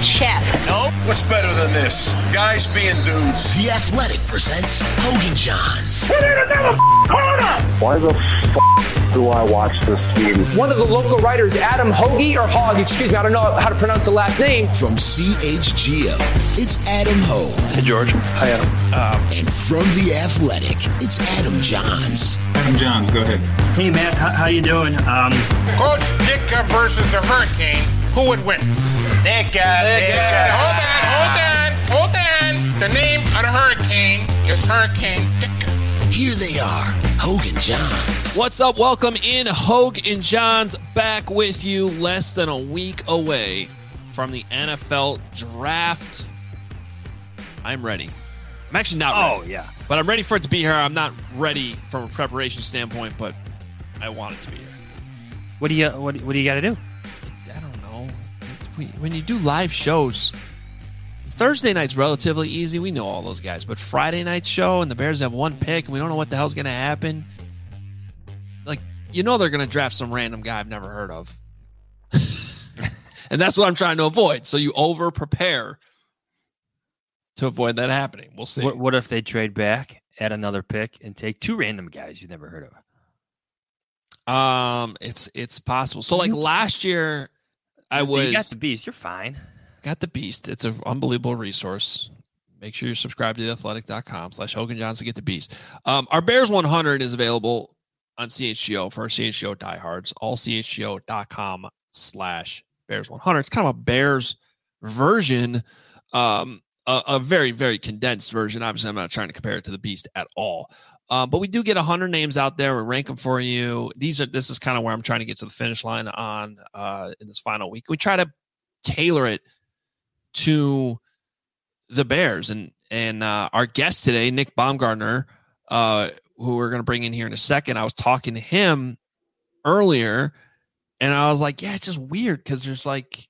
chef. Nope. What's better than this? Guys being dudes. The Athletic presents Hogan Johns. We need another corner! Why the do I watch this team? One of the local writers, Adam Hoagie, or Hogg, excuse me, I don't know how to pronounce the last name. From CHGO, it's Adam Hogue. Hey, George. Hi, Adam. And from The Athletic, it's Adam Johns. Adam Johns, go ahead. Hey, Matt, how you doing? Coach Ditka versus the Hurricane, who would win? Ditka. Hold on. The name of the Hurricane is Hurricane Ditka. Here they are, Hogue and Johns. What's up? Welcome in. Hogue and Johns back with you less than a week away from the NFL draft. I'm ready. I'm actually not ready. Oh, yeah. But I'm ready for it to be here. I'm not ready from a preparation standpoint, but I want it to be here. What do you got to do? I don't know. When you do live shows, Thursday night's relatively easy. We know all those guys. But Friday night's show and the Bears have one pick and we don't know what the hell's going to happen. Like, you know they're going to draft some random guy I've never heard of. And that's what I'm trying to avoid. So you over-prepare to avoid that happening. We'll see. What if they trade back, add another pick, and take two random guys you've never heard of? It's possible. So like last year, you got the beast. You're fine. Got the beast. It's an unbelievable resource. Make sure you subscribe to theathletic.com/Hogan Johns to get the beast. Our Bears 100 is available on CHGO for our CHGO diehards. All CHGO.com/Bears 100. It's kind of a Bears version, a very, very condensed version. Obviously, I'm not trying to compare it to the beast at all. But we do get 100 names out there. We rank them for you. This is kind of where I'm trying to get to the finish line on in this final week. We try to tailor it to the Bears and our guest today, Nick Baumgardner, who we're going to bring in here in a second. I was talking to him earlier and I was like, yeah, it's just weird because there's like,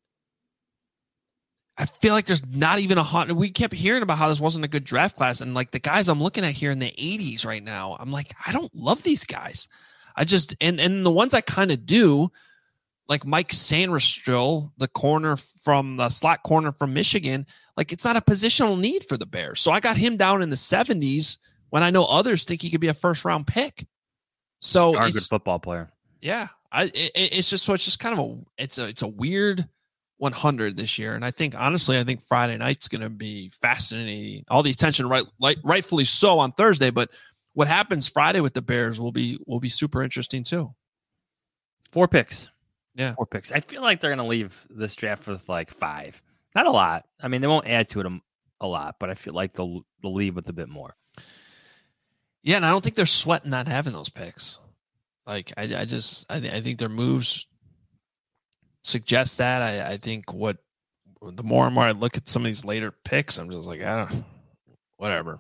I feel like there's not even we kept hearing about how this wasn't a good draft class. And like the guys I'm looking at here in the 80s right now, I'm like, I don't love these guys. I just, and the ones I kind of do, like Mike Sanderstill, the slot corner from Michigan, like it's not a positional need for the Bears. So I got him down in the 70s when I know others think he could be a first round pick. So he's a good football player. Yeah. It's just kind of it's a weird 100 this year. And I think Friday night's going to be fascinating. All the attention, rightfully so on Thursday, but what happens Friday with the Bears will be super interesting too. 4 picks. Yeah. 4 picks. I feel like they're going to leave this draft with like 5. Not a lot. I mean, they won't add to it a lot, but I feel like they'll leave with a bit more. Yeah, and I don't think they're sweating not having those picks. Like, I think their moves suggest that. I think the more and more I look at some of these later picks, I'm just like, whatever.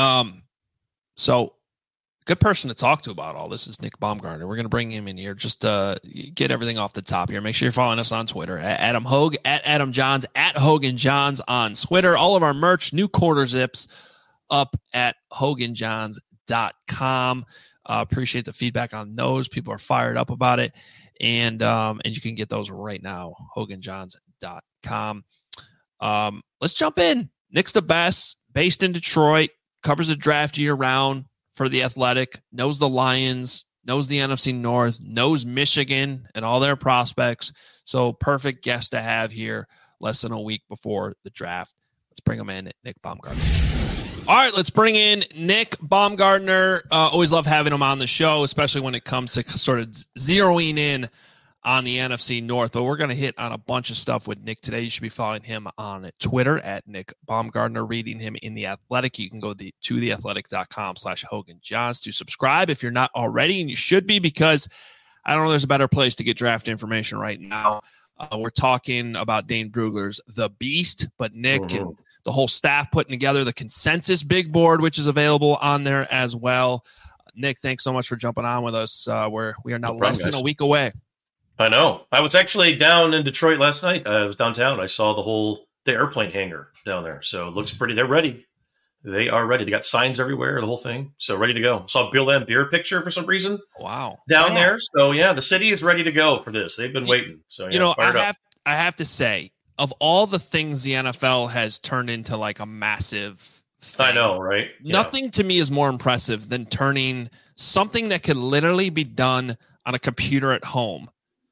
So good person to talk to about all this is Nick Baumgardner. We're going to bring him in here just to get everything off the top here. Make sure you're following us on Twitter at Adam Hogue, at Adam Johns, at Hogan Johns on Twitter. All of our merch, new quarter zips up at HoganJohns.com. Appreciate the feedback on those. People are fired up about it. And you can get those right now, HoganJohns.com. Let's jump in. Nick's the best, based in Detroit, covers the draft year round for The Athletic, knows the Lions, knows the NFC North, knows Michigan and all their prospects. So perfect guest to have here less than a week before the draft. Let's bring him in, Nick Baumgardner. All right, let's bring in Nick Baumgardner. Always love having him on the show, especially when it comes to sort of zeroing in on the NFC North. But we're going to hit on a bunch of stuff with Nick today. You should be following him on Twitter at Nick Baumgardner, reading him in The Athletic. You can go to theathletic.com/Hogan Johns to subscribe if you're not already, and you should be, because I don't know there's a better place to get draft information right now. We're talking about Dane Brugler's The Beast, but Nick and the whole staff putting together the consensus big board, which is available on there as well. Nick, thanks so much for jumping on with us. We are now less than a week away. I know. I was actually down in Detroit last night. I was downtown. I saw the airplane hangar down there. So it looks pretty. They're ready. They are ready. They got signs everywhere, the whole thing. So ready to go. Saw Bill Laimbeer picture for some reason. Wow. Down there. So yeah, the city is ready to go for this. They've been waiting. So yeah, I have to say, of all the things the NFL has turned into like a massive thing, I know, right? Yeah. Nothing to me is more impressive than turning something that could literally be done on a computer at home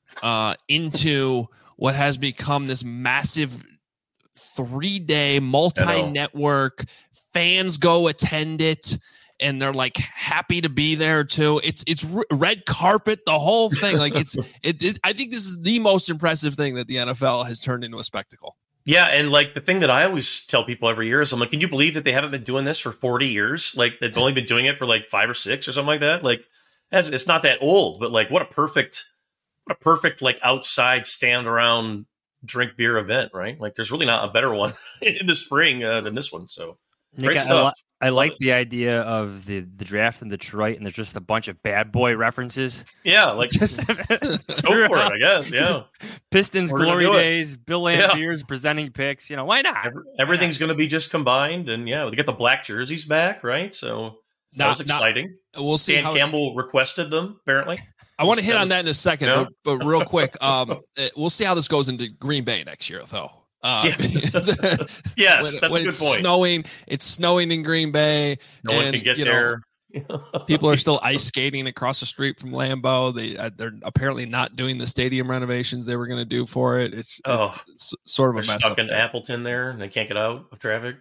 into what has become this massive 3-day multi-network. Fans go attend it, and they're like happy to be there too. It's red carpet, the whole thing. Like I think this is the most impressive thing that the NFL has turned into a spectacle. Yeah, and like the thing that I always tell people every year is, I'm like, can you believe that they haven't been doing this for 40 years? Like they've only been doing it for like 5 or 6 or something like that. Like it's not that old, but like what a perfect like outside stand around drink beer event, right? Like there's really not a better one in the spring than this one. So great Nick, stuff. I like the idea of the draft in Detroit, and there's just a bunch of bad boy references. Yeah, like Just go for it, I guess. Yeah, Pistons We're gonna glory do it. days, Bill Lampiers presenting picks. Why not? Everything's going to be just combined, and yeah, we get the black jerseys back, right? So that was exciting. We'll see. Dan Campbell requested them, apparently. I want to hit on that in a second, Yeah. but real quick, we'll see how this goes into Green Bay next year, though. Yes, that's a good point. It's snowing in Green Bay. No one can get there. People are still ice skating across the street from Lambeau. They're apparently not doing the stadium renovations they were going to do for it. It's sort of a They're mess. stuck in Appleton there, and they can't get out of traffic.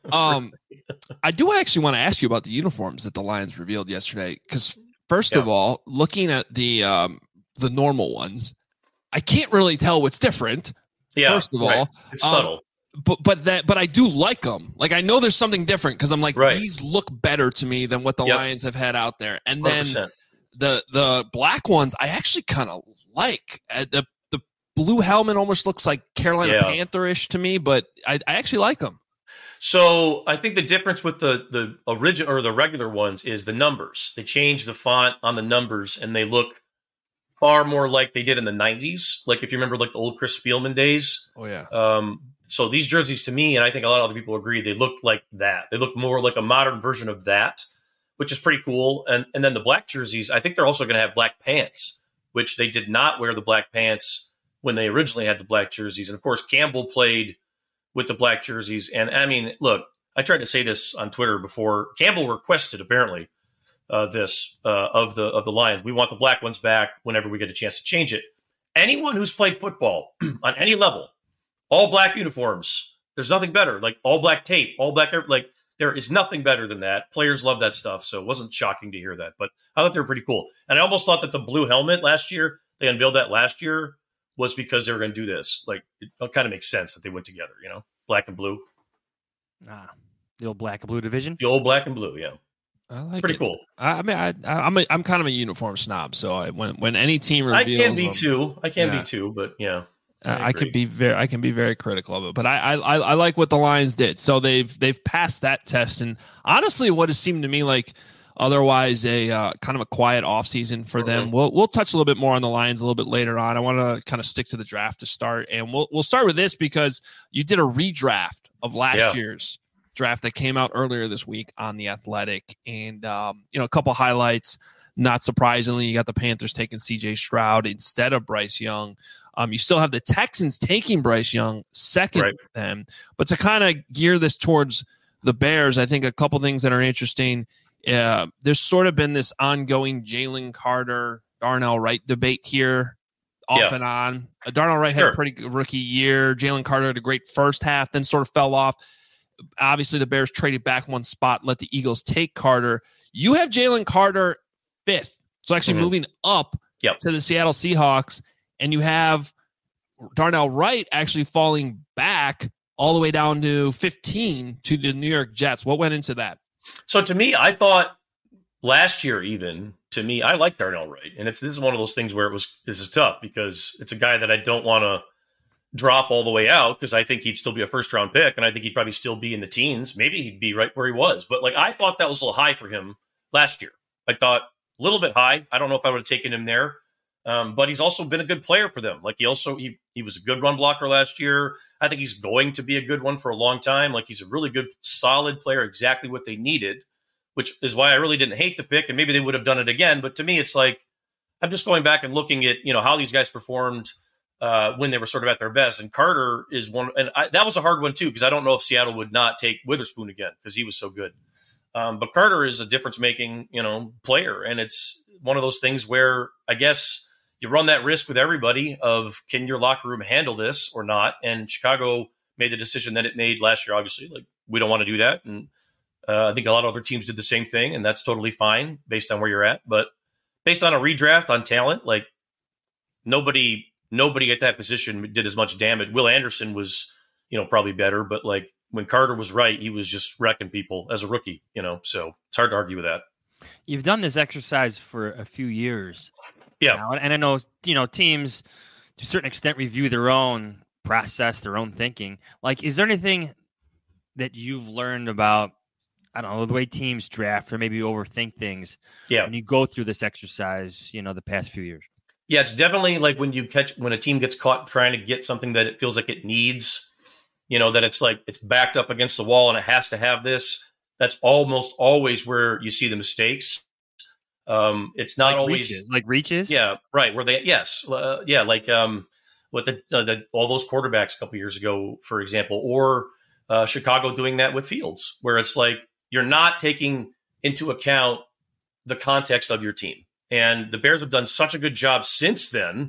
I do actually want to ask you about the uniforms that the Lions revealed yesterday, because first of all, looking at the normal ones, I can't really tell what's different. Yeah, first of all, it's subtle. But I do like them. Like I know there's something different because I'm like, Right. these look better to me than what the Lions have had out there. And then 100%. the black ones I actually kind of like. The blue helmet almost looks like Carolina Panther-ish to me, but I actually like them. So I think the difference with the original or the regular ones is the numbers. They changed the font on the numbers, and they look far more like they did in the 90s. Like if you remember like the old Chris Spielman days. Oh, yeah. So these jerseys to me, and I think a lot of other people agree, they look like that. They look more like a modern version of that, which is pretty cool. And then the black jerseys, I think they're also going to have black pants, which they did not wear the black pants when they originally had the black jerseys. And of course, Campbell played with the black jerseys. And I mean, look, I tried to say this on Twitter before. Campbell requested apparently this of the Lions. We want the black ones back whenever we get a chance to change it. Anyone who's played football on any level, all black uniforms, there's nothing better. Like all black tape, all black, like there is nothing better than that. Players love that stuff. So it wasn't shocking to hear that, but I thought they were pretty cool. And I almost thought that the blue helmet last year, they unveiled that last year, was because they were going to do this. Like it kind of makes sense that they went together, black and blue. The old black and blue division. The old black and blue. Yeah. I like pretty it. cool. I mean, I'm kind of a uniform snob, so when any team reveals, I can be too, but yeah. I can be very critical of it, but I like what the Lions did. So they've passed that test, and honestly, what has seemed to me like otherwise a kind of a quiet offseason for them. We'll touch a little bit more on the Lions a little bit later on. I want to kind of stick to the draft to start, and we'll start with this because you did a redraft of last year's draft that came out earlier this week on The Athletic, and a couple highlights. Not surprisingly, you got the Panthers taking C.J. Stroud instead of Bryce Young. You still have the Texans taking Bryce Young second to them. But to kind of gear this towards the Bears, I think a couple things that are interesting. There's sort of been this ongoing Jalen Carter, Darnell Wright debate here off and on. Darnell Wright had a pretty good rookie year. Jalen Carter had a great first half, then sort of fell off. Obviously, the Bears traded back one spot, let the Eagles take Carter. You have Jalen Carter 5th. So actually moving up to the Seattle Seahawks. And you have Darnell Wright actually falling back all the way down to 15 to the New York Jets. What went into that? So to me, I thought last year I like Darnell Wright. And this is one of those things where this is tough because it's a guy that I don't want to drop all the way out because I think he'd still be a first-round pick, and I think he'd probably still be in the teens. Maybe he'd be right where he was. But I thought that was a little high for him last year. I thought a little bit high. I don't know if I would have taken him there. But he's also been a good player for them. He was a good run blocker last year. I think he's going to be a good one for a long time. He's a really good, solid player, exactly what they needed, which is why I really didn't hate the pick. And maybe they would have done it again. But to me, it's I'm just going back and looking at, how these guys performed when they were sort of at their best. And Carter is one, and that was a hard one too, because I don't know if Seattle would not take Witherspoon again because he was so good. But Carter is a difference-making, player, and it's one of those things where I guess you run that risk with everybody of can your locker room handle this or not? And Chicago made the decision that it made last year. Obviously, like we don't want to do that, and I think a lot of other teams did the same thing, and that's totally fine based on where you're at. But based on a redraft on talent, like nobody at that position did as much damage. Will Anderson was, probably better, but like when Carter was right, he was just wrecking people as a rookie, so it's hard to argue with that. You've done this exercise for a few years. Yeah. Now, and I know, teams to a certain extent review their own process, their own thinking. Like, is there anything that you've learned about, I don't know, the way teams draft or maybe overthink things when you go through this exercise, the past few years? Yeah, it's definitely like when a team gets caught trying to get something that it feels like it needs, that it's like it's backed up against the wall and it has to have this. That's almost always where you see the mistakes. It's not like always reaches. Yeah, right. Where they like with all those quarterbacks a couple years ago, for example, or Chicago doing that with Fields, where it's like you're not taking into account the context of your team. And the Bears have done such a good job since then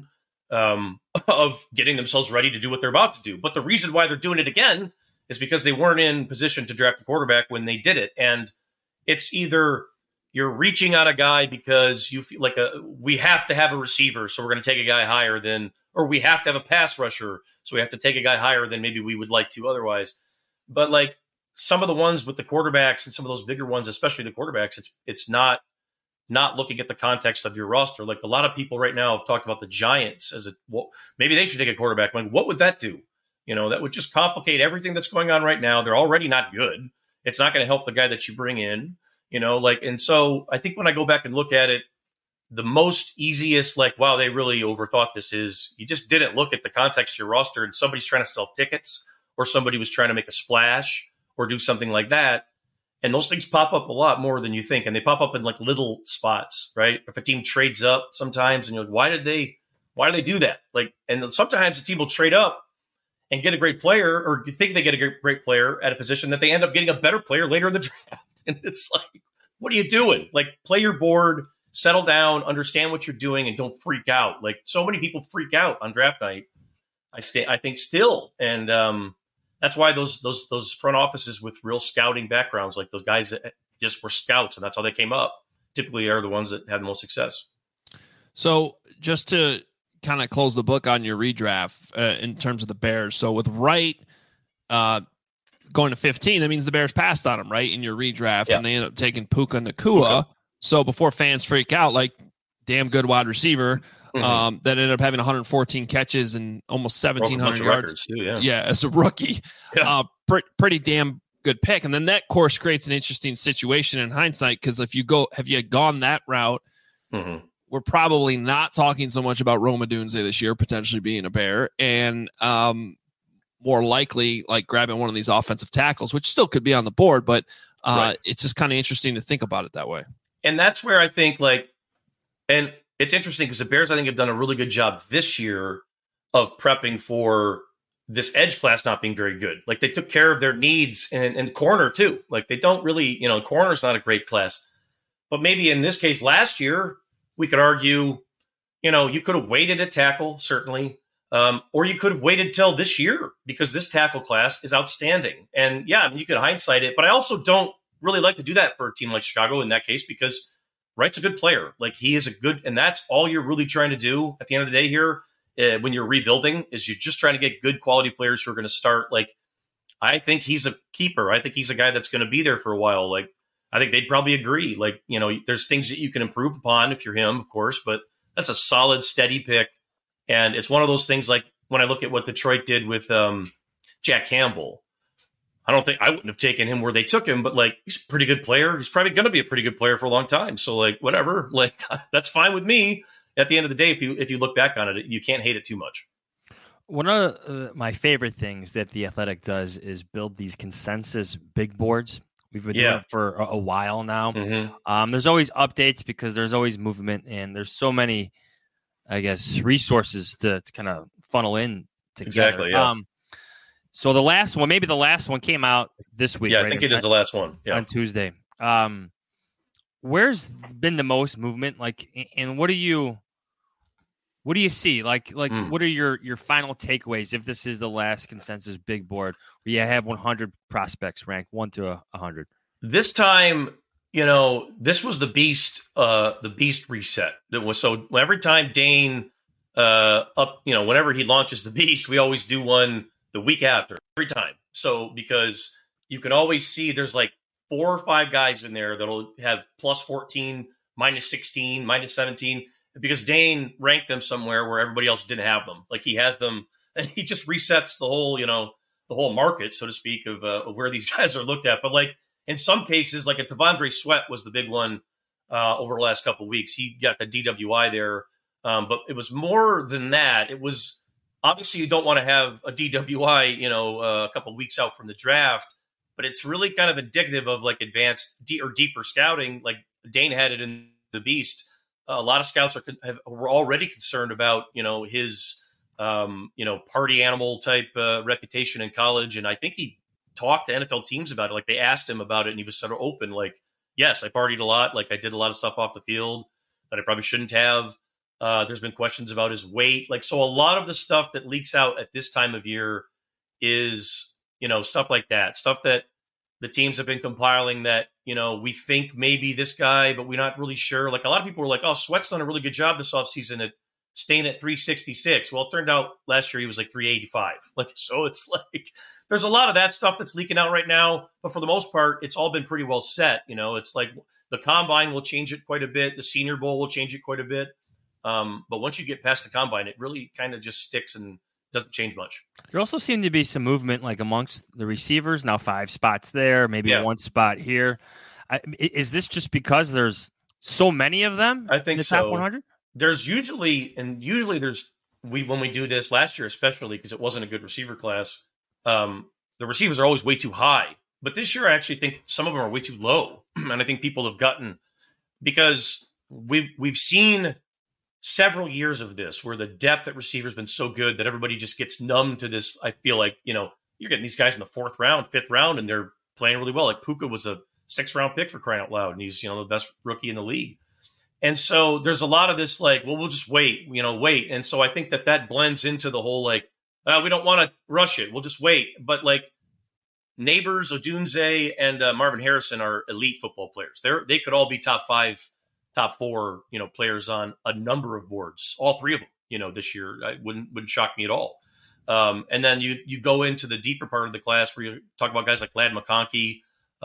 of getting themselves ready to do what they're about to do. But the reason why they're doing it again is because they weren't in position to draft a quarterback when they did it. And it's either you're reaching out a guy because you feel like we have to have a receiver, so we're going to take a guy higher than, or we have to have a pass rusher, so we have to take a guy higher than maybe we would like to otherwise. But like some of the ones with the quarterbacks and some of those bigger ones, especially the quarterbacks, it's not looking at the context of your roster. Like a lot of people right now have talked about the Giants as maybe they should take a quarterback. Like, what would that do? That would just complicate everything that's going on right now. They're already not good. It's not going to help the guy that you bring in, and so I think when I go back and look at it, the most easiest, wow, they really overthought this is you just didn't look at the context of your roster and somebody's trying to sell tickets or somebody was trying to make a splash or do something like that. And those things pop up a lot more than you think. And they pop up in like little spots, right? If a team trades up sometimes and you're like, why do they do that? And sometimes a team will trade up and get a great player, or you think they get a great player at a position that they end up getting a better player later in the draft. And it's like, what are you doing? Play your board, settle down, understand what you're doing, and don't freak out. So many people freak out on draft night. I think still. And, that's why those front offices with real scouting backgrounds, like those guys that just were scouts and that's how they came up, typically are the ones that have the most success. So just to kind of close the book on your redraft in terms of the Bears. So with Wright going to 15, that means the Bears passed on him, right, in your redraft, and they end up taking Puka Nacua. Okay. So before fans freak out, damn good wide receiver, that ended up having 114 catches and almost 1,700 yards. Too, as a rookie. Yeah. Pretty damn good pick. And then that course creates an interesting situation in hindsight, because if you had gone that route, we're probably not talking so much about Rome Odunze this year potentially being a Bear, and more likely grabbing one of these offensive tackles, which still could be on the board, but it's just kind of interesting to think about it that way. And that's where I think and it's interesting because the Bears, I think, have done a really good job this year of prepping for this edge class not being very good. They took care of their needs and corner too. They don't really, corner's not a great class, but maybe in this case last year, we could argue, you could have waited at tackle, certainly, or you could have waited till this year because this tackle class is outstanding. And you could hindsight it, but I also don't really like to do that for a team like Chicago in that case, because Wright's a good player. He is a good, and that's all you're really trying to do at the end of the day here when you're rebuilding, is you're just trying to get good quality players who are going to start. I think he's a keeper. I think he's a guy that's going to be there for a while. I think they'd probably agree. There's things that you can improve upon if you're him, of course, but that's a solid, steady pick. And it's one of those things when I look at what Detroit did with Jack Campbell, I wouldn't have taken him where they took him, but he's a pretty good player. He's probably going to be a pretty good player for a long time. So whatever, that's fine with me. At the end of the day, if you look back on it, you can't hate it too much. One of my favorite things that The Athletic does is build these consensus big boards. We've been doing it for a while now. Mm-hmm. There's always updates because there's always movement, and there's so many, I guess, resources to kind of funnel in together. Exactly. Yeah. So the last one, maybe the last one came out this week. Yeah, right? I think it is the last one. Yeah. On Tuesday. Where's been the most movement? Like, and what do you see? Like, what are your final takeaways if this is the last consensus big board where you have 100 prospects ranked 1 to 100? This time, this was the beast reset. That was so every time Dane whenever he launches the beast, we always do one the week after every time. So because you can always see there's like 4 or 5 guys in there that'll have plus 14, minus 16, minus 17, because Dane ranked them somewhere where everybody else didn't have them. Like he has them, and he just resets the whole market, so to speak, of where these guys are looked at. But like in some cases, like a T'Vondre Sweat was the big one over the last couple of weeks. He got the DWI there, but it was more than that. It was obviously you don't want to have a DWI, a couple of weeks out from the draft. But it's really kind of indicative of like advanced or deeper scouting. Like Dane had it in the Beast. A lot of scouts were already concerned about, his, party animal type reputation in college. And I think he talked to NFL teams about it. Like they asked him about it and he was sort of open. Like, yes, I partied a lot. Like I did a lot of stuff off the field that I probably shouldn't have. There's been questions about his weight. Like, so a lot of the stuff that leaks out at this time of year is, stuff like that, stuff that the teams have been compiling that, we think maybe this guy, but we're not really sure. Like a lot of people were like, oh, Sweat's done a really good job this offseason at staying at 366. Well, it turned out last year he was like 385. Like, so it's like, there's a lot of that stuff that's leaking out right now. But for the most part, it's all been pretty well set. It's like the combine will change it quite a bit. The Senior Bowl will change it quite a bit. But once you get past the combine, it really kind of just sticks and doesn't change much. There also seemed to be some movement like amongst the receivers. Now 5 spots there, maybe 1 spot here. Is this just because there's so many of them? I think in the so. Top 100? There's usually when we do this last year, especially because it wasn't a good receiver class, the receivers are always way too high. But this year, I actually think some of them are way too low. And I think people have gotten, because we've seen several years of this where the depth at receiver has been so good that everybody just gets numb to this. I feel like, you're getting these guys in the 4th round, 5th round, and they're playing really well. Like Puka was a 6th round pick for crying out loud. And he's, the best rookie in the league. And so there's a lot of this, like, well, we'll just wait. And so I think that blends into the whole, like, we don't want to rush it. We'll just wait. But like Neighbors, Odunze, and Marvin Harrison are elite football players. They could all be top 5, top 4, players on a number of boards, all 3 of them, this year. It wouldn't shock me at all. And then you go into the deeper part of the class where you talk about guys like Ladd McConkey,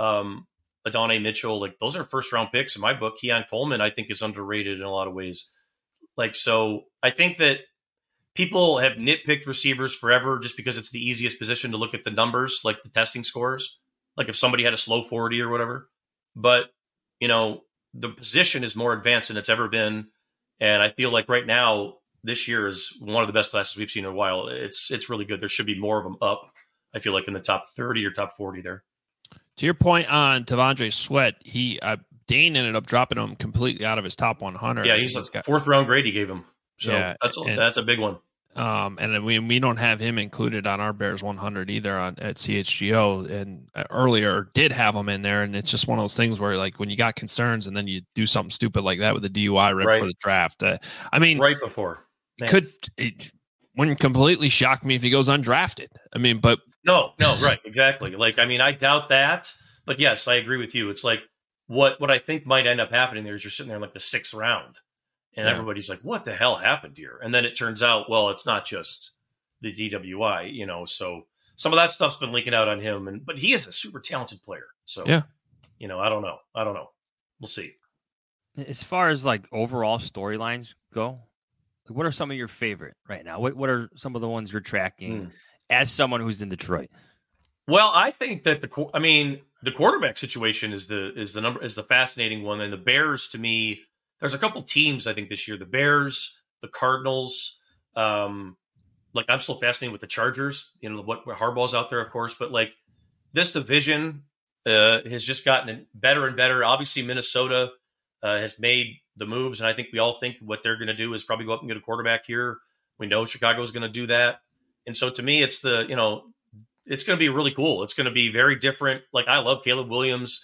Adonai Mitchell. Like those are 1st round picks in my book. Keon Coleman, I think, is underrated in a lot of ways. Like, so I think that people have nitpicked receivers forever just because it's the easiest position to look at the numbers, like the testing scores, like if somebody had a slow 40 or whatever. But, the position is more advanced than it's ever been. And I feel like right now, this year is one of the best classes we've seen in a while. It's really good. There should be more of them up, I feel like, in the top 30 or top 40 there. To your point on T'Vondre Sweat, Dane ended up dropping him completely out of his top 100. Yeah, he's a 4th round grade he gave him. So yeah, that's a big one. And then we don't have him included on our Bears 100 either at CHGO, and earlier did have him in there. And it's just one of those things where, like, when you got concerns and then you do something stupid like that with the DUI right before the draft. Right before. It wouldn't completely shock me if he goes undrafted. But no, right, exactly. Like, I doubt that. But yes, I agree with you. It's like what I think might end up happening there is you're sitting there in like the 6th round. And everybody's like, what the hell happened here? And then it turns out, well, it's not just the DWI, so some of that stuff's been leaking out on him. But he is a super talented player. So, I don't know. We'll see. As far as like overall storylines go, what are some of your favorite right now? What are some of the ones you're tracking as someone who's in Detroit? Well, I think that the quarterback situation is the fascinating one. And the Bears, to me, there's a couple teams, I think, this year. The Bears, the Cardinals. I'm still fascinated with the Chargers. What Harbaugh's out there, of course. But, like, this division has just gotten better and better. Obviously, Minnesota has made the moves, and I think we all think what they're going to do is probably go up and get a quarterback here We know Chicago's going to do that. And so to me, it's it's going to be really cool. It's going to be very different. Like, I love Caleb Williams.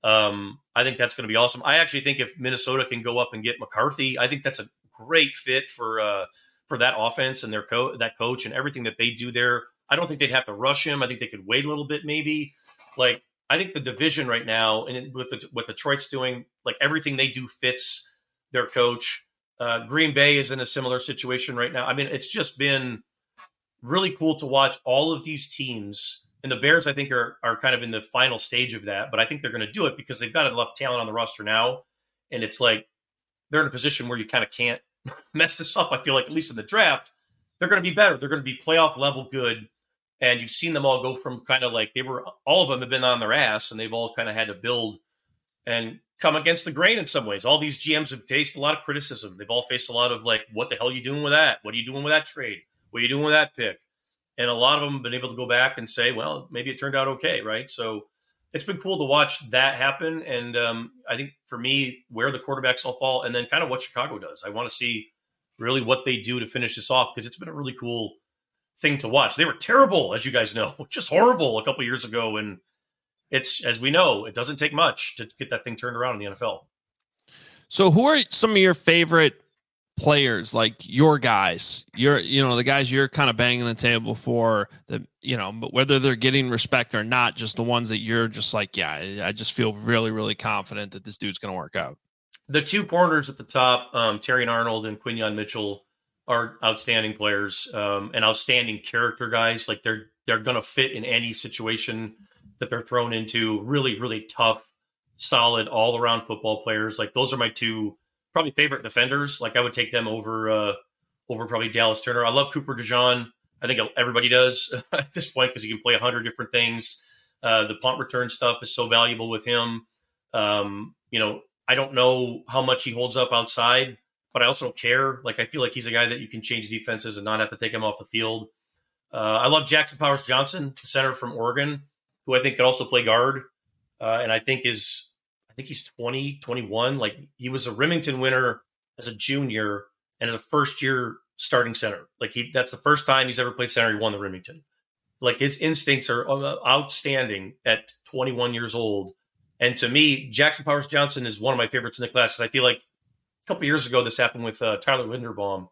I think that's going to be awesome. I actually think if Minnesota can go up and get McCarthy, I think that's a great fit for that offense and that coach and everything that they do there. I don't think they'd have to rush him. I think they could wait a little bit, maybe. Like, I think the division right now, and with what Detroit's doing, like, everything they do fits their coach. Green Bay is in a similar situation right now. I mean, it's just been really cool to watch all of these teams. And the Bears, I think, are kind of in the final stage of that. But I think they're going to do it because they've got enough talent on the roster now. And it's like they're in a position where you kind of can't mess this up. I feel like, at least in the draft, they're going to be better. They're going to be playoff level good. And you've seen them all go from kind of like all of them have been on their ass, and they've all kind of had to build and come against the grain in some ways. All these GMs have faced a lot of criticism. They've all faced a lot of like, what the hell are you doing with that? What are you doing with that trade? What are you doing with that pick? And a lot of them have been able to go back and say, well, maybe it turned out okay, right? So it's been cool to watch that happen. And I think for me, where the quarterbacks all fall, and then kind of what Chicago does. I want to see really what they do to finish this off, because it's been a really cool thing to watch. They were terrible, as you guys know, just horrible a couple years ago. And it's, as we know, it doesn't take much to get that thing turned around in the NFL. So who are some of your favorite players, like your guys, the guys you're kind of banging the table for, but whether they're getting respect or not, just the ones that you're just like, yeah, I just feel really, really confident that this dude's going to work out? The two corners at the top, Terrion Arnold and Quinyon Mitchell, are outstanding players, and outstanding character guys. Like, they're going to fit in any situation that they're thrown into. Really, really tough, solid, all around football players. Like, those are my two probably favorite defenders. Like, I would take them over probably Dallas Turner. I love Cooper DeJean. I think everybody does at this point, because he can play 100 different things. The punt return stuff is so valuable with him. I don't know how much he holds up outside, but I also don't care. Like, I feel like he's a guy that you can change defenses and not have to take him off the field. I love Jackson Powers Johnson, the center from Oregon, who I think could also play guard. And I think he's 20, 21. Like, he was a Remington winner as a junior and as a first-year starting center. Like, that's the first time he's ever played center. He won the Remington. Like, his instincts are outstanding at 21 years old. And to me, Jackson Powers Johnson is one of my favorites in the class, because I feel like a couple years ago this happened with Tyler Linderbaum.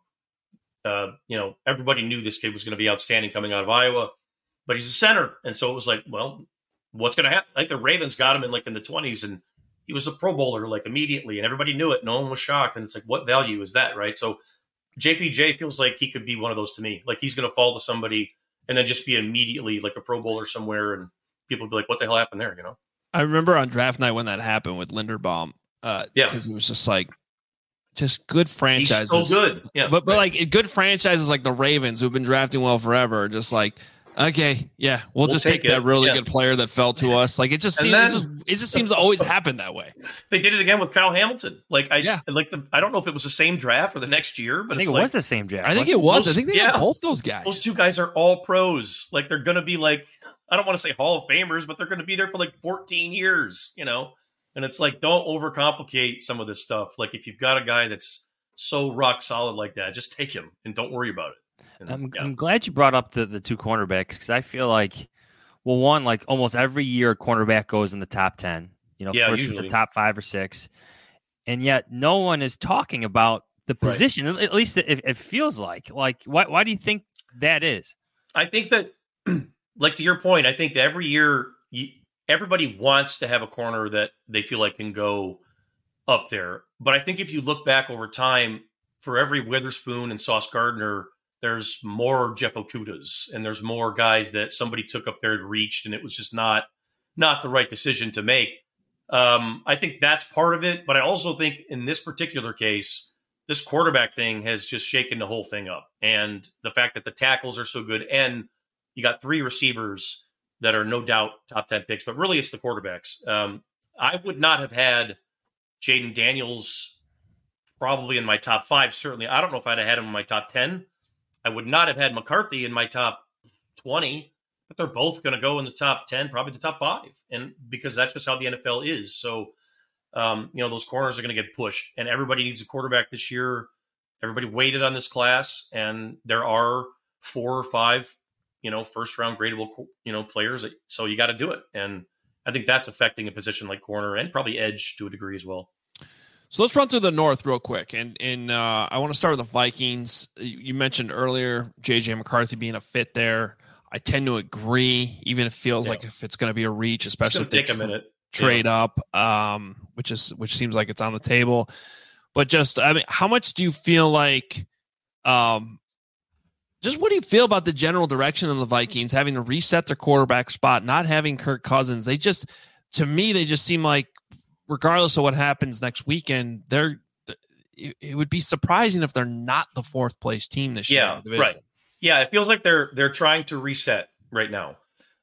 Everybody knew this kid was going to be outstanding coming out of Iowa, but he's a center. And so it was like, well, what's going to happen? Like, the Ravens got him in the 20s, and he was a Pro Bowler like immediately, and everybody knew it. No one was shocked. And it's like, what value is that, right? So JPJ feels like he could be one of those to me. Like, he's going to fall to somebody and then just be immediately like a Pro Bowler somewhere, and people will be like, what the hell happened there, I remember on draft night when that happened with Linderbaum, because it was just like, just good franchises. He's so good. Yeah. But like, good franchises like the Ravens, who've been drafting well forever, are just like, okay, yeah, we'll just take that really good player that fell to us. Like, it just seems to always happen that way. They did it again with Kyle Hamilton. Like, I don't know if it was the same draft or the next year, but I think it was the same draft. I think it was. I think they had both those guys. Those two guys are all pros. Like, they're going to be like, I don't want to say Hall of Famers, but they're going to be there for like 14 years, And it's like, don't overcomplicate some of this stuff. Like, if you've got a guy that's so rock solid like that, just take him and don't worry about it. And, I'm glad you brought up the two cornerbacks, because I feel like, well, one, like almost every year a cornerback goes in the top 10, usually the top 5 or 6. And yet no one is talking about the position. Right. At least it feels like why do you think that is? I think that, like, to your point, I think that every year everybody wants to have a corner that they feel like can go up there. But I think if you look back over time, for every Witherspoon and Sauce Gardner, there's more Jeff Okudas, and there's more guys that somebody took up there and reached, and it was just not the right decision to make. I think that's part of it. But I also think in this particular case, this quarterback thing has just shaken the whole thing up. And the fact that the tackles are so good, and you got 3 receivers that are no doubt top 10 picks, but really it's the quarterbacks. I would not have had Jaden Daniels probably in my top 5. Certainly, I don't know if I'd have had him in my top 10. I would not have had McCarthy in my top 20, but they're both going to go in the top 10, probably the top 5. And because that's just how the NFL is. So, those corners are going to get pushed, and everybody needs a quarterback this year. Everybody waited on this class, and there are 4 or 5, first round gradable, players. So you got to do it. And I think that's affecting a position like corner and probably edge to a degree as well. So let's run through the North real quick. And I want to start with the Vikings. You mentioned earlier J.J. McCarthy being a fit there. I tend to agree, even if it feels like if it's going to be a reach, especially if they take a minute. Trade up, which seems like it's on the table. But just, I mean, how much do you feel like just what do you feel about the general direction of the Vikings having to reset their quarterback spot, not having Kirk Cousins? To me, they just seem like, regardless of what happens next weekend, it would be surprising if they're not the 4th place team this year. Yeah, right. Yeah, it feels like they're trying to reset right now.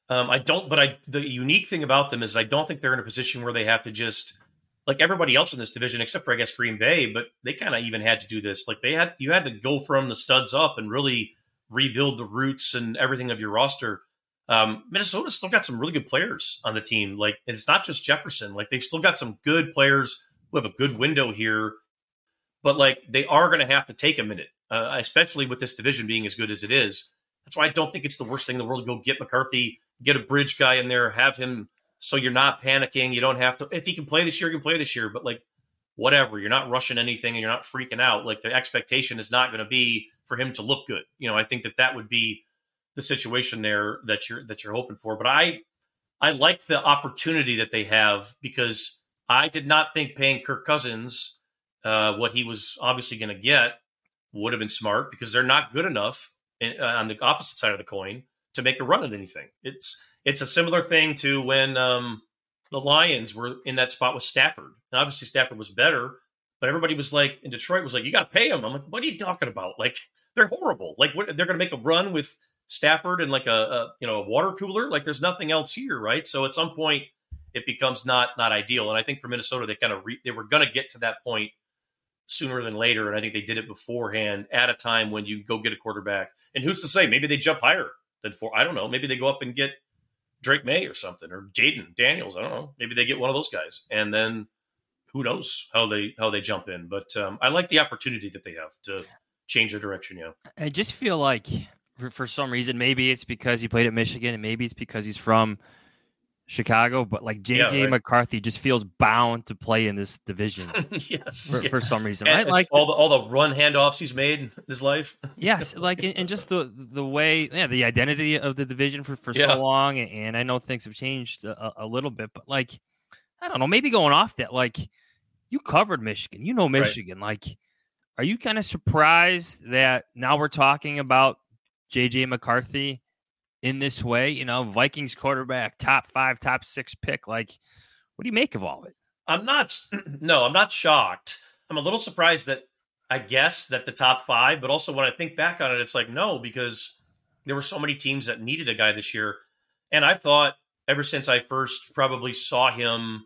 The unique thing about them is I don't think they're in a position where they have to just, like everybody else in this division, except for I guess Green Bay, but they kind of even had to do this. Like you had to go from the studs up and really rebuild the roots and everything of your roster. Minnesota's still got some really good players on the team. Like, it's not just Jefferson. Like, they've still got some good players who have a good window here, but like they are going to have to take a minute, especially with this division being as good as it is. That's why I don't think it's the worst thing in the world to go get McCarthy, get a bridge guy in there, have him so you're not panicking. You don't have to. If he can play this year, he can play this year. But like, whatever, you're not rushing anything and you're not freaking out. Like, the expectation is not going to be for him to look good. I think that would be the situation there that you're hoping for. But I like the opportunity that they have, because I did not think paying Kirk Cousins what he was obviously going to get would have been smart, because they're not good enough on the opposite side of the coin to make a run at anything. It's a similar thing to when the Lions were in that spot with Stafford. And obviously Stafford was better, but everybody was like, in Detroit was like, you got to pay him. I'm like, what are you talking about? Like, they're horrible. Like, they're going to make a run with Stafford and like a water cooler. Like, there's nothing else here, right? So at some point it becomes not ideal. And I think for Minnesota, they were going to get to that point sooner than later. And I think they did it beforehand at a time when you go get a quarterback. And who's to say, maybe they jump higher than 4. I don't know. Maybe they go up and get Drake May or something, or Jaden Daniels. I don't know. Maybe they get one of those guys, and then who knows how they jump in. But I like the opportunity that they have to change their direction. Yeah, I just feel like for some reason, maybe it's because he played at Michigan, and maybe it's because he's from Chicago, but like J.J. McCarthy just feels bound to play in this division. Yes, for some reason, and right? Like all the run handoffs he's made in his life. Yes, like and just the way, the identity of the division for so long, and I know things have changed a little bit, but like, I don't know, maybe going off that, like, you covered Michigan, Michigan, right? Like, are you kind of surprised that now we're talking about J.J. McCarthy in this way, Vikings quarterback, top 5, top 6 pick? Like, what do you make of all of it? I'm not shocked. I'm a little surprised that I guess that the top 5, but also when I think back on it, it's like, no, because there were so many teams that needed a guy this year. And I thought ever since I first probably saw him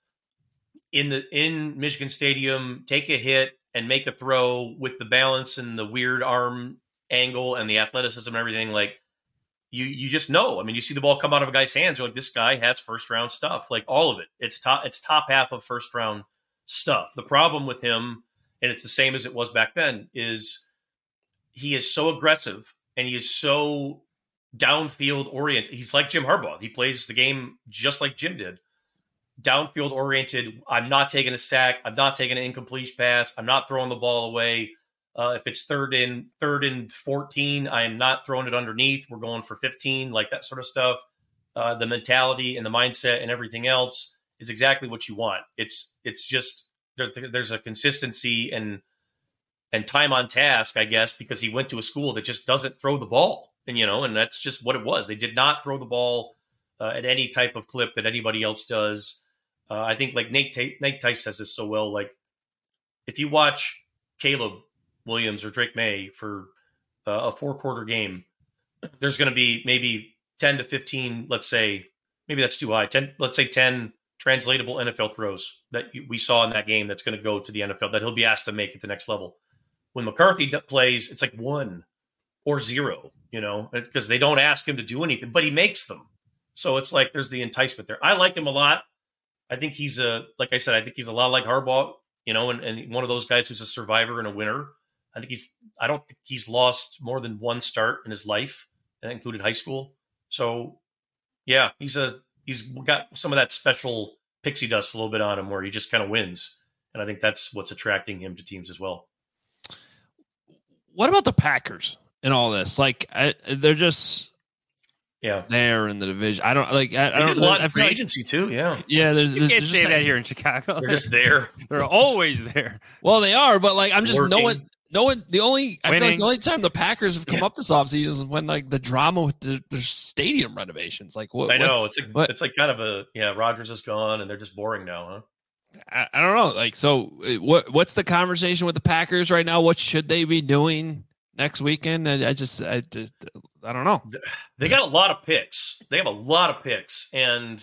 in Michigan Stadium, take a hit and make a throw with the balance and the weird arm angle and the athleticism and everything, like, You just know. I mean, you see the ball come out of a guy's hands, you're like, this guy has first round stuff. Like, all of it. It's top half of first round stuff. The problem with him, and it's the same as it was back then, is he is so aggressive and he is so downfield oriented. He's like Jim Harbaugh. He plays the game just like Jim did. Downfield oriented. I'm not taking a sack. I'm not taking an incomplete pass. I'm not throwing the ball away. If it's third and 14, I am not throwing it underneath. We're going for 15, like that sort of stuff. The mentality and the mindset and everything else is exactly what you want. It's just there's a consistency and time on task, I guess, because he went to a school that just doesn't throw the ball, and that's just what it was. They did not throw the ball at any type of clip that anybody else does. I think like Nate Tice says this so well. Like, if you watch Caleb Williams or Drake May for a 4-quarter game, there's going to be maybe 10 to 15, let's say, maybe that's too high, 10 translatable NFL throws that we saw in that game that's going to go to the NFL that he'll be asked to make at the next level. When McCarthy plays, it's like 1 or 0, because they don't ask him to do anything, but he makes them. So it's like there's the enticement there. I like him a lot. I think he's like I said, I think he's a lot like Harbaugh, and one of those guys who's a survivor and a winner. I don't think he's lost more than one start in his life, and that included high school. So yeah, he's got some of that special pixie dust a little bit on him where he just kind of wins. And I think that's what's attracting him to teams as well. What about the Packers in all this? Like, they're just there in the division. I don't like. I don't. A lot of free agency too. Yeah. You can't say that here in Chicago. They're just there. They're always there. Well, they are, but like, I'm just Working. no one. I feel like the only time the Packers have come up this offseason is when like the drama with the stadium renovations. Like, what? I know it's like kind of a Rodgers is gone and they're just boring now, huh? I don't know. Like, so what's the conversation with the Packers right now? What should they be doing next weekend? I don't know. They got a lot of picks. They have a lot of picks, and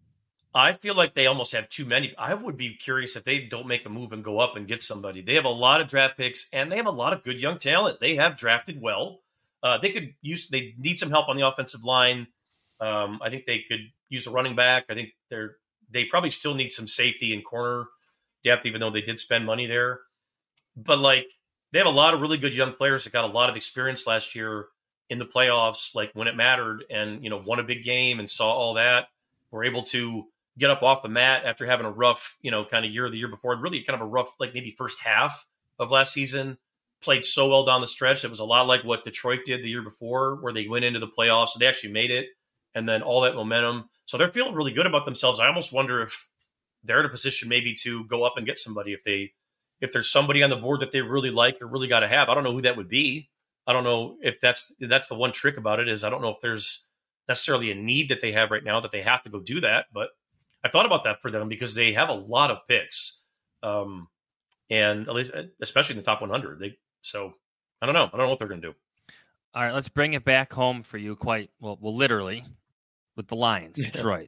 I feel like they almost have too many. I would be curious if they don't make a move and go up and get somebody. They have a lot of draft picks, and they have a lot of good young talent. They have drafted well. They need some help on the offensive line. I think they could use a running back. I think they probably still need some safety and corner depth, even though they did spend money there. But like, they have a lot of really good young players that got a lot of experience last year in the playoffs, like when it mattered, and won a big game and saw all that. Were able to get up off the mat after having a rough, kind of year the year before, really kind of a rough, like maybe first half of last season. Played so well down the stretch. It was a lot like what Detroit did the year before, where they went into the playoffs and they actually made it, and then all that momentum. So they're feeling really good about themselves. I almost wonder if they're in a position maybe to go up and get somebody if there's somebody on the board that they really like or really got to have. I don't know who that would be. I don't know if that's the one trick about it is I don't know if there's necessarily a need that they have right now that they have to go do that. But I thought about that for them because they have a lot of picks, and at least especially in the top 100. So I don't know. I don't know what they're going to do. All right, let's bring it back home for you. Quite well, literally with the Lions, Detroit.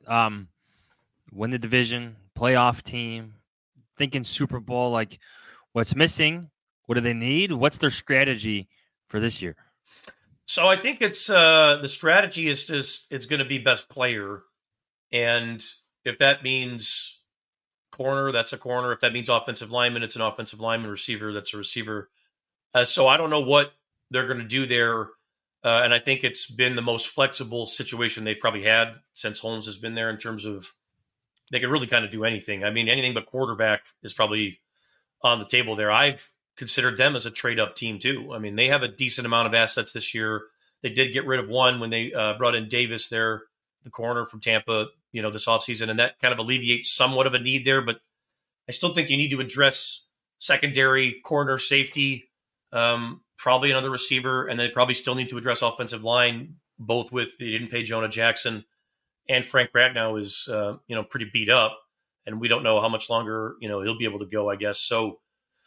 Win the division, playoff team, thinking Super Bowl. Like, what's missing? What do they need? What's their strategy for this year? So I think it's the strategy is just it's going to be best player, and if that means corner, that's a corner. If that means offensive lineman, it's an offensive lineman. Receiver, that's a receiver. So I don't know what they're going to do there, and I think it's been the most flexible situation they've probably had since Holmes has been there in terms of they can really kind of do anything. I mean, anything but quarterback is probably on the table there. I've considered them as a trade-up team too. I mean, they have a decent amount of assets this year. They did get rid of one when they brought in Davis there, the corner from Tampa, this offseason, and that kind of alleviates somewhat of a need there. But I still think you need to address secondary, corner, safety, probably another receiver, and they probably still need to address offensive line, both with they didn't pay Jonah Jackson, and Frank Ragnow is pretty beat up, and we don't know how much longer he'll be able to go, I guess. So,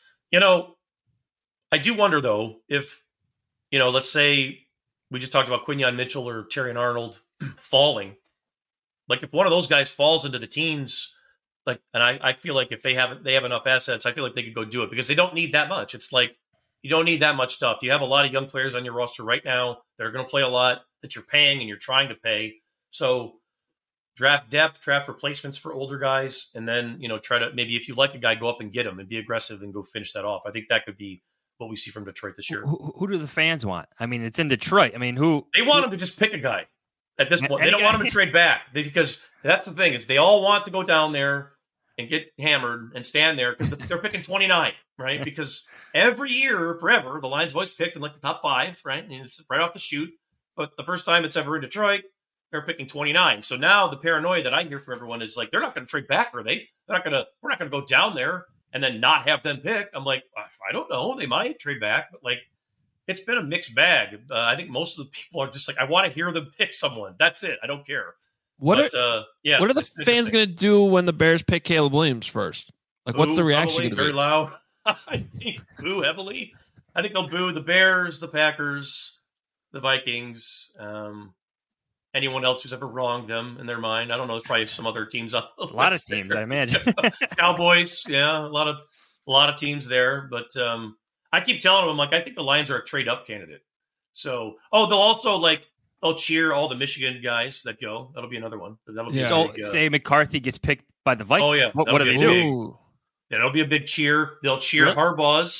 I do wonder though if let's say we just talked about Quinyon Mitchell or Terrion Arnold falling. Like if one of those guys falls into the teens, like, and I feel like if they have enough assets, I feel like they could go do it because they don't need that much. It's like you don't need that much stuff. You have a lot of young players on your roster right now that are going to play a lot that you're paying and you're trying to pay. So draft depth, draft replacements for older guys, and then try to maybe if you like a guy, go up and get him and be aggressive and go finish that off. I think that could be what we see from Detroit this year. Who do the fans want? I mean, it's in Detroit. I mean, they want him to just pick a guy at this point. They don't want him to trade back because that's the thing is they all want to go down there and get hammered and stand there because they're picking 29, right? Because every year, forever, the Lions have always picked in like the top 5, right? And it's right off the chute. But the first time it's ever in Detroit, they're picking 29. So now the paranoia that I hear from everyone is like, they're not going to trade back, are they? We're not going to go down there and then not have them pick. I'm like, I don't know. They might trade back, but like, it's been a mixed bag. I think most of the people are just like, I want to hear them pick someone. That's it. I don't care. What are the fans going to do when the Bears pick Caleb Williams first? Like, what's the reaction going to be? Very loud. I think boo heavily. I think they'll boo the Bears, the Packers, the Vikings, anyone else who's ever wronged them in their mind. I don't know. There's probably some other teams on the list. A lot of teams, I imagine. Cowboys, yeah, a lot of teams there. But I keep telling them, like, I think the Lions are a trade-up candidate. So, they'll also they'll cheer all the Michigan guys that go. That'll be another one. That'll be say McCarthy gets picked by the Vikings. Oh yeah, what do they do? Yeah, it'll be a big cheer. They'll cheer Harbaugh's.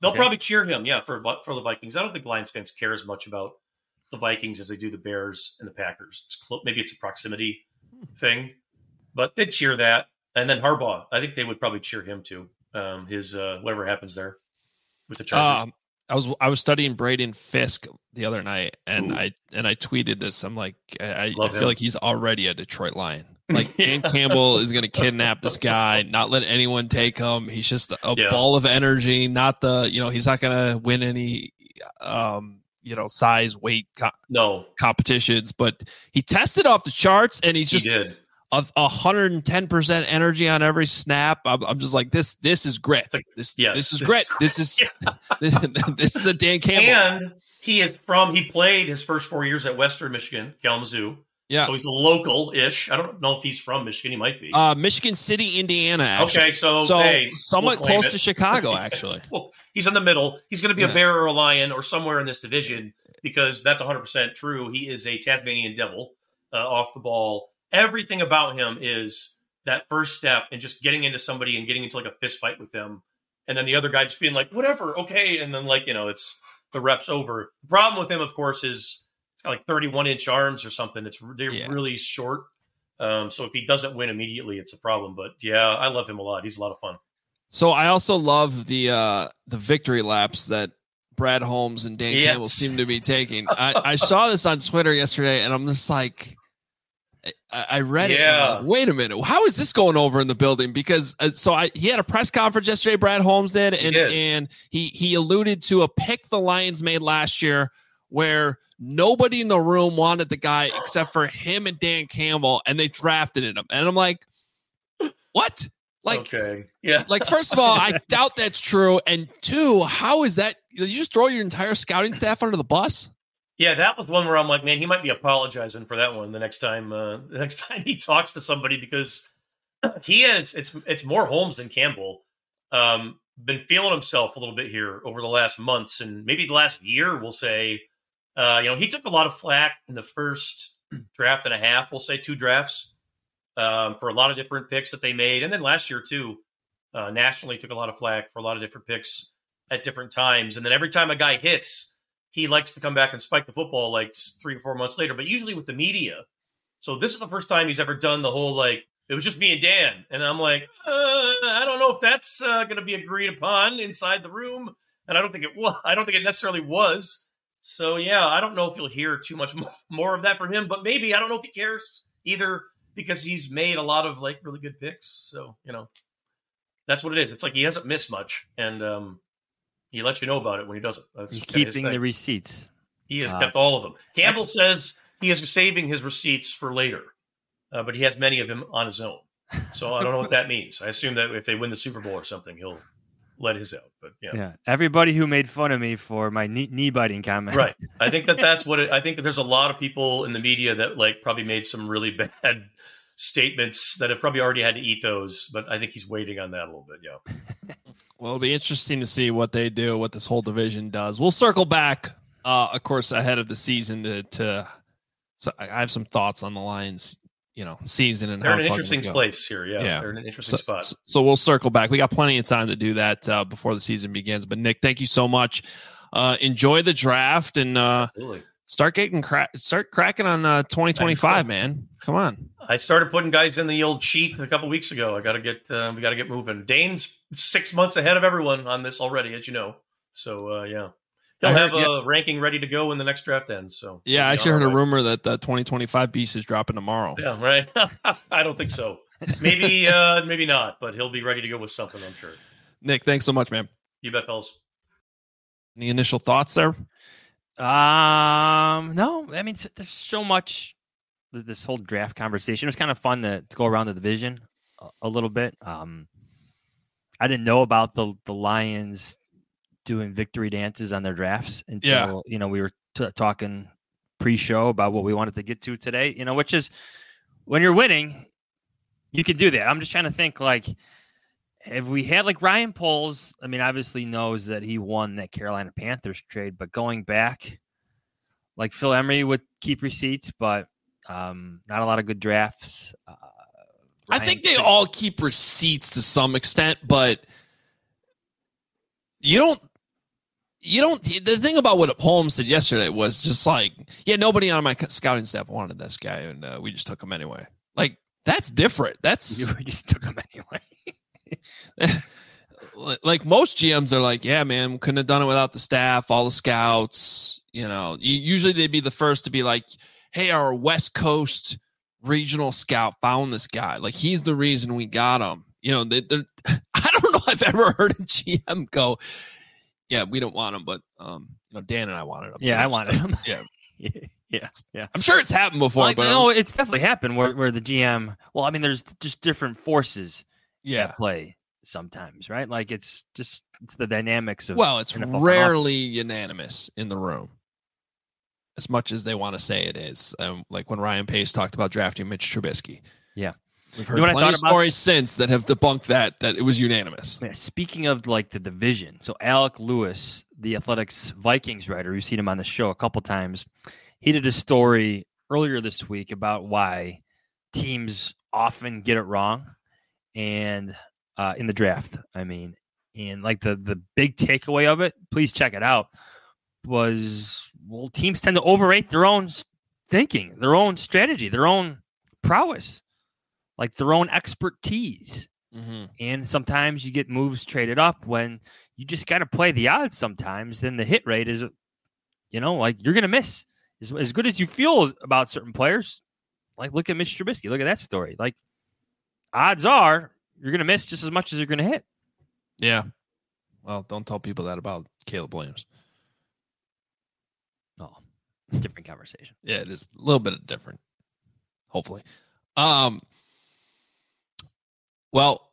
They'll probably cheer him, for the Vikings. I don't think Lions fans care as much about the Vikings as they do the Bears and the Packers. Maybe it's a proximity thing, but they'd cheer that. And then Harbaugh, I think they would probably cheer him too. His whatever happens there with the Chargers. I was studying Braden Fisk the other night, and I tweeted this. I'm like, I feel like he's already a Detroit Lion. Like Dan Campbell is going to kidnap this guy, not let anyone take him. He's just a ball of energy. Not he's not going to win any size, weight competitions. But he tested off the charts, and he's just 110% energy on every snap. I'm just like, this is grit. This is grit. This is this is a Dan Campbell. And he played his first 4 years at Western Michigan, Kalamazoo. Yeah. So he's a local-ish. I don't know if he's from Michigan. He might be. Michigan City, Indiana, actually. Okay, so somewhat close to Chicago, actually. Well, he's in the middle. He's going to be a Bear or a Lion or somewhere in this division because that's 100% true. He is a Tasmanian devil off the ball. Everything about him is that first step and just getting into somebody and getting into like a fist fight with them. And then the other guy just being like, whatever, okay. And then it's the rep's over. The problem with him, of course, is it's got like 31-inch arms or something. They're really short. So if he doesn't win immediately, it's a problem. But yeah, I love him a lot. He's a lot of fun. So I also love the victory laps that Brad Holmes and Dan Campbell seem to be taking. I saw this on Twitter yesterday, and I'm just like, I read it. And I'm like, wait a minute. How is this going over in the building? Because he had a press conference yesterday. Brad Holmes did, and he alluded to a pick the Lions made last year where nobody in the room wanted the guy except for him and Dan Campbell, and they drafted him. And I'm like, what? Like, okay, yeah. Like, first of all, I doubt that's true. And two, how is that? Did you just throw your entire scouting staff under the bus? Yeah, that was one where I'm like, man, he might be apologizing for that one the next time he talks to somebody, because he is. It's more Holmes than Campbell. Been feeling himself a little bit here over the last months and maybe the last year. We'll say, he took a lot of flack in the first draft and a half. We'll say 2 drafts for a lot of different picks that they made, and then last year too, nationally took a lot of flack for a lot of different picks at different times. And then every time a guy hits, he likes to come back and spike the football like 3 or 4 months later, but usually with the media. So this is the first time he's ever done the whole, like, it was just me and Dan. And I'm like, I don't know if that's going to be agreed upon inside the room. And I don't think it was. I don't think it necessarily was. So, yeah, I don't know if you'll hear too much more of that from him, but maybe. I don't know if he cares either, because he's made a lot of like really good picks. So, that's what it is. It's like he hasn't missed much. And, he lets you know about it when he doesn't. He's keeping the receipts. He has kept all of them. Campbell says he is saving his receipts for later, but he has many of them on his own. So I don't know what that means. I assume that if they win the Super Bowl or something, he'll let his out. But yeah. Everybody who made fun of me for my knee biting comment. Right. I think that's what I think there's a lot of people in the media that like probably made some really bad statements that have probably already had to eat those. But I think he's waiting on that a little bit. Yeah. Well, it'll be interesting to see what they do, what this whole division does. We'll circle back, of course, ahead of the season so I have some thoughts on the Lions, season and they're how in it's an interesting place here. Yeah, they're in an interesting spot. So we'll circle back. We got plenty of time to do that before the season begins. But Nick, thank you so much. Enjoy the draft and start cracking on 2025, man. Come on. I started putting guys in the old sheet a couple weeks ago. We got to get moving. Dane's 6 months ahead of everyone on this already, as you know. So he'll have a ranking ready to go when the next draft ends. So I actually heard a rumor that the 2025 beast is dropping tomorrow. Yeah, right. I don't think so. Maybe maybe not, but he'll be ready to go with something, I'm sure. Nick, thanks so much, man. You bet, fellas. Any initial thoughts there? No, I mean, there's so much. This whole draft conversation, it was kind of fun to go around the division a little bit. I didn't know about the Lions doing victory dances on their drafts until we were talking pre-show about what we wanted to get to today. Which is when you're winning, you can do that. I'm just trying to think, like, if we had like Ryan Poles, I mean, obviously knows that he won that Carolina Panthers trade, but going back, like Phil Emery would keep receipts, but not a lot of good drafts. I think they all keep receipts to some extent, but you don't you don't. The thing about what Holmes said yesterday was just like, yeah, nobody on my scouting staff wanted this guy, and we just took him anyway. Like, that's different. We just took him anyway. Like most GMs are like, yeah, man, couldn't have done it without the staff, all the scouts. You know, usually they'd be the first to be like, hey, our West Coast regional scout found this guy. Like, he's the reason we got him. You know, I don't know if I've ever heard a GM go, yeah, we don't want him, but Dan and I wanted him. Yeah, I wanted him. Yeah. Yeah. I'm sure it's happened before, but no, it's definitely happened where the GM. Well, I mean, there's just different forces. At play sometimes, right? Like it's the dynamics of. Well, it's rarely unanimous in the room, as much as they want to say it is. Like when Ryan Pace talked about drafting Mitch Trubisky. Yeah. We've heard plenty of stories since that have debunked that it was unanimous. Yeah, speaking of like the division, so Alec Lewis, the Athletics Vikings writer, you've seen him on the show a couple times, he did a story earlier this week about why teams often get it wrong and in the draft. I mean, and like the big takeaway of it, please check it out, was, well, teams tend to overrate their own thinking, their own strategy, their own prowess. Like their own expertise. Mm-hmm. And sometimes you get moves traded up when you just got to play the odds sometimes. Then the hit rate is, like you're going to miss. As good as you feel about certain players, like look at Mitch Trubisky. Look at that story. Like odds are you're going to miss just as much as you're going to hit. Yeah. Well, don't tell people that about Caleb Williams. Oh, different conversation. Yeah, it is a little bit different. Hopefully. Well,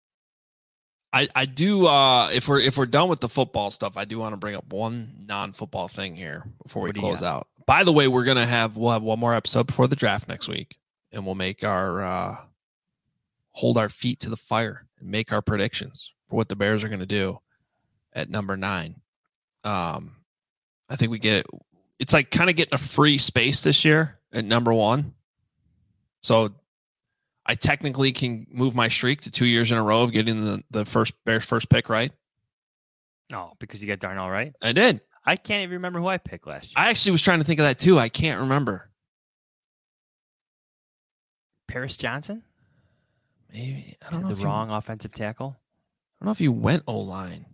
I do. If we're done with the football stuff, I do want to bring up one non-football thing here before we close out. By the way, we'll have one more episode before the draft next week, and we'll make our hold our feet to the fire and make our predictions for what the Bears are going to do at number 9. I think we get it. It's like kind of getting a free space this year at number 1. So I technically can move my streak to 2 years in a row of getting the Bears first pick right. Oh, because you got Darnell right? I did. I can't even remember who I picked last year. I actually was trying to think of that too. I can't remember. Paris Johnson? Maybe. I don't know. The wrong offensive tackle? I don't know if you went O-line.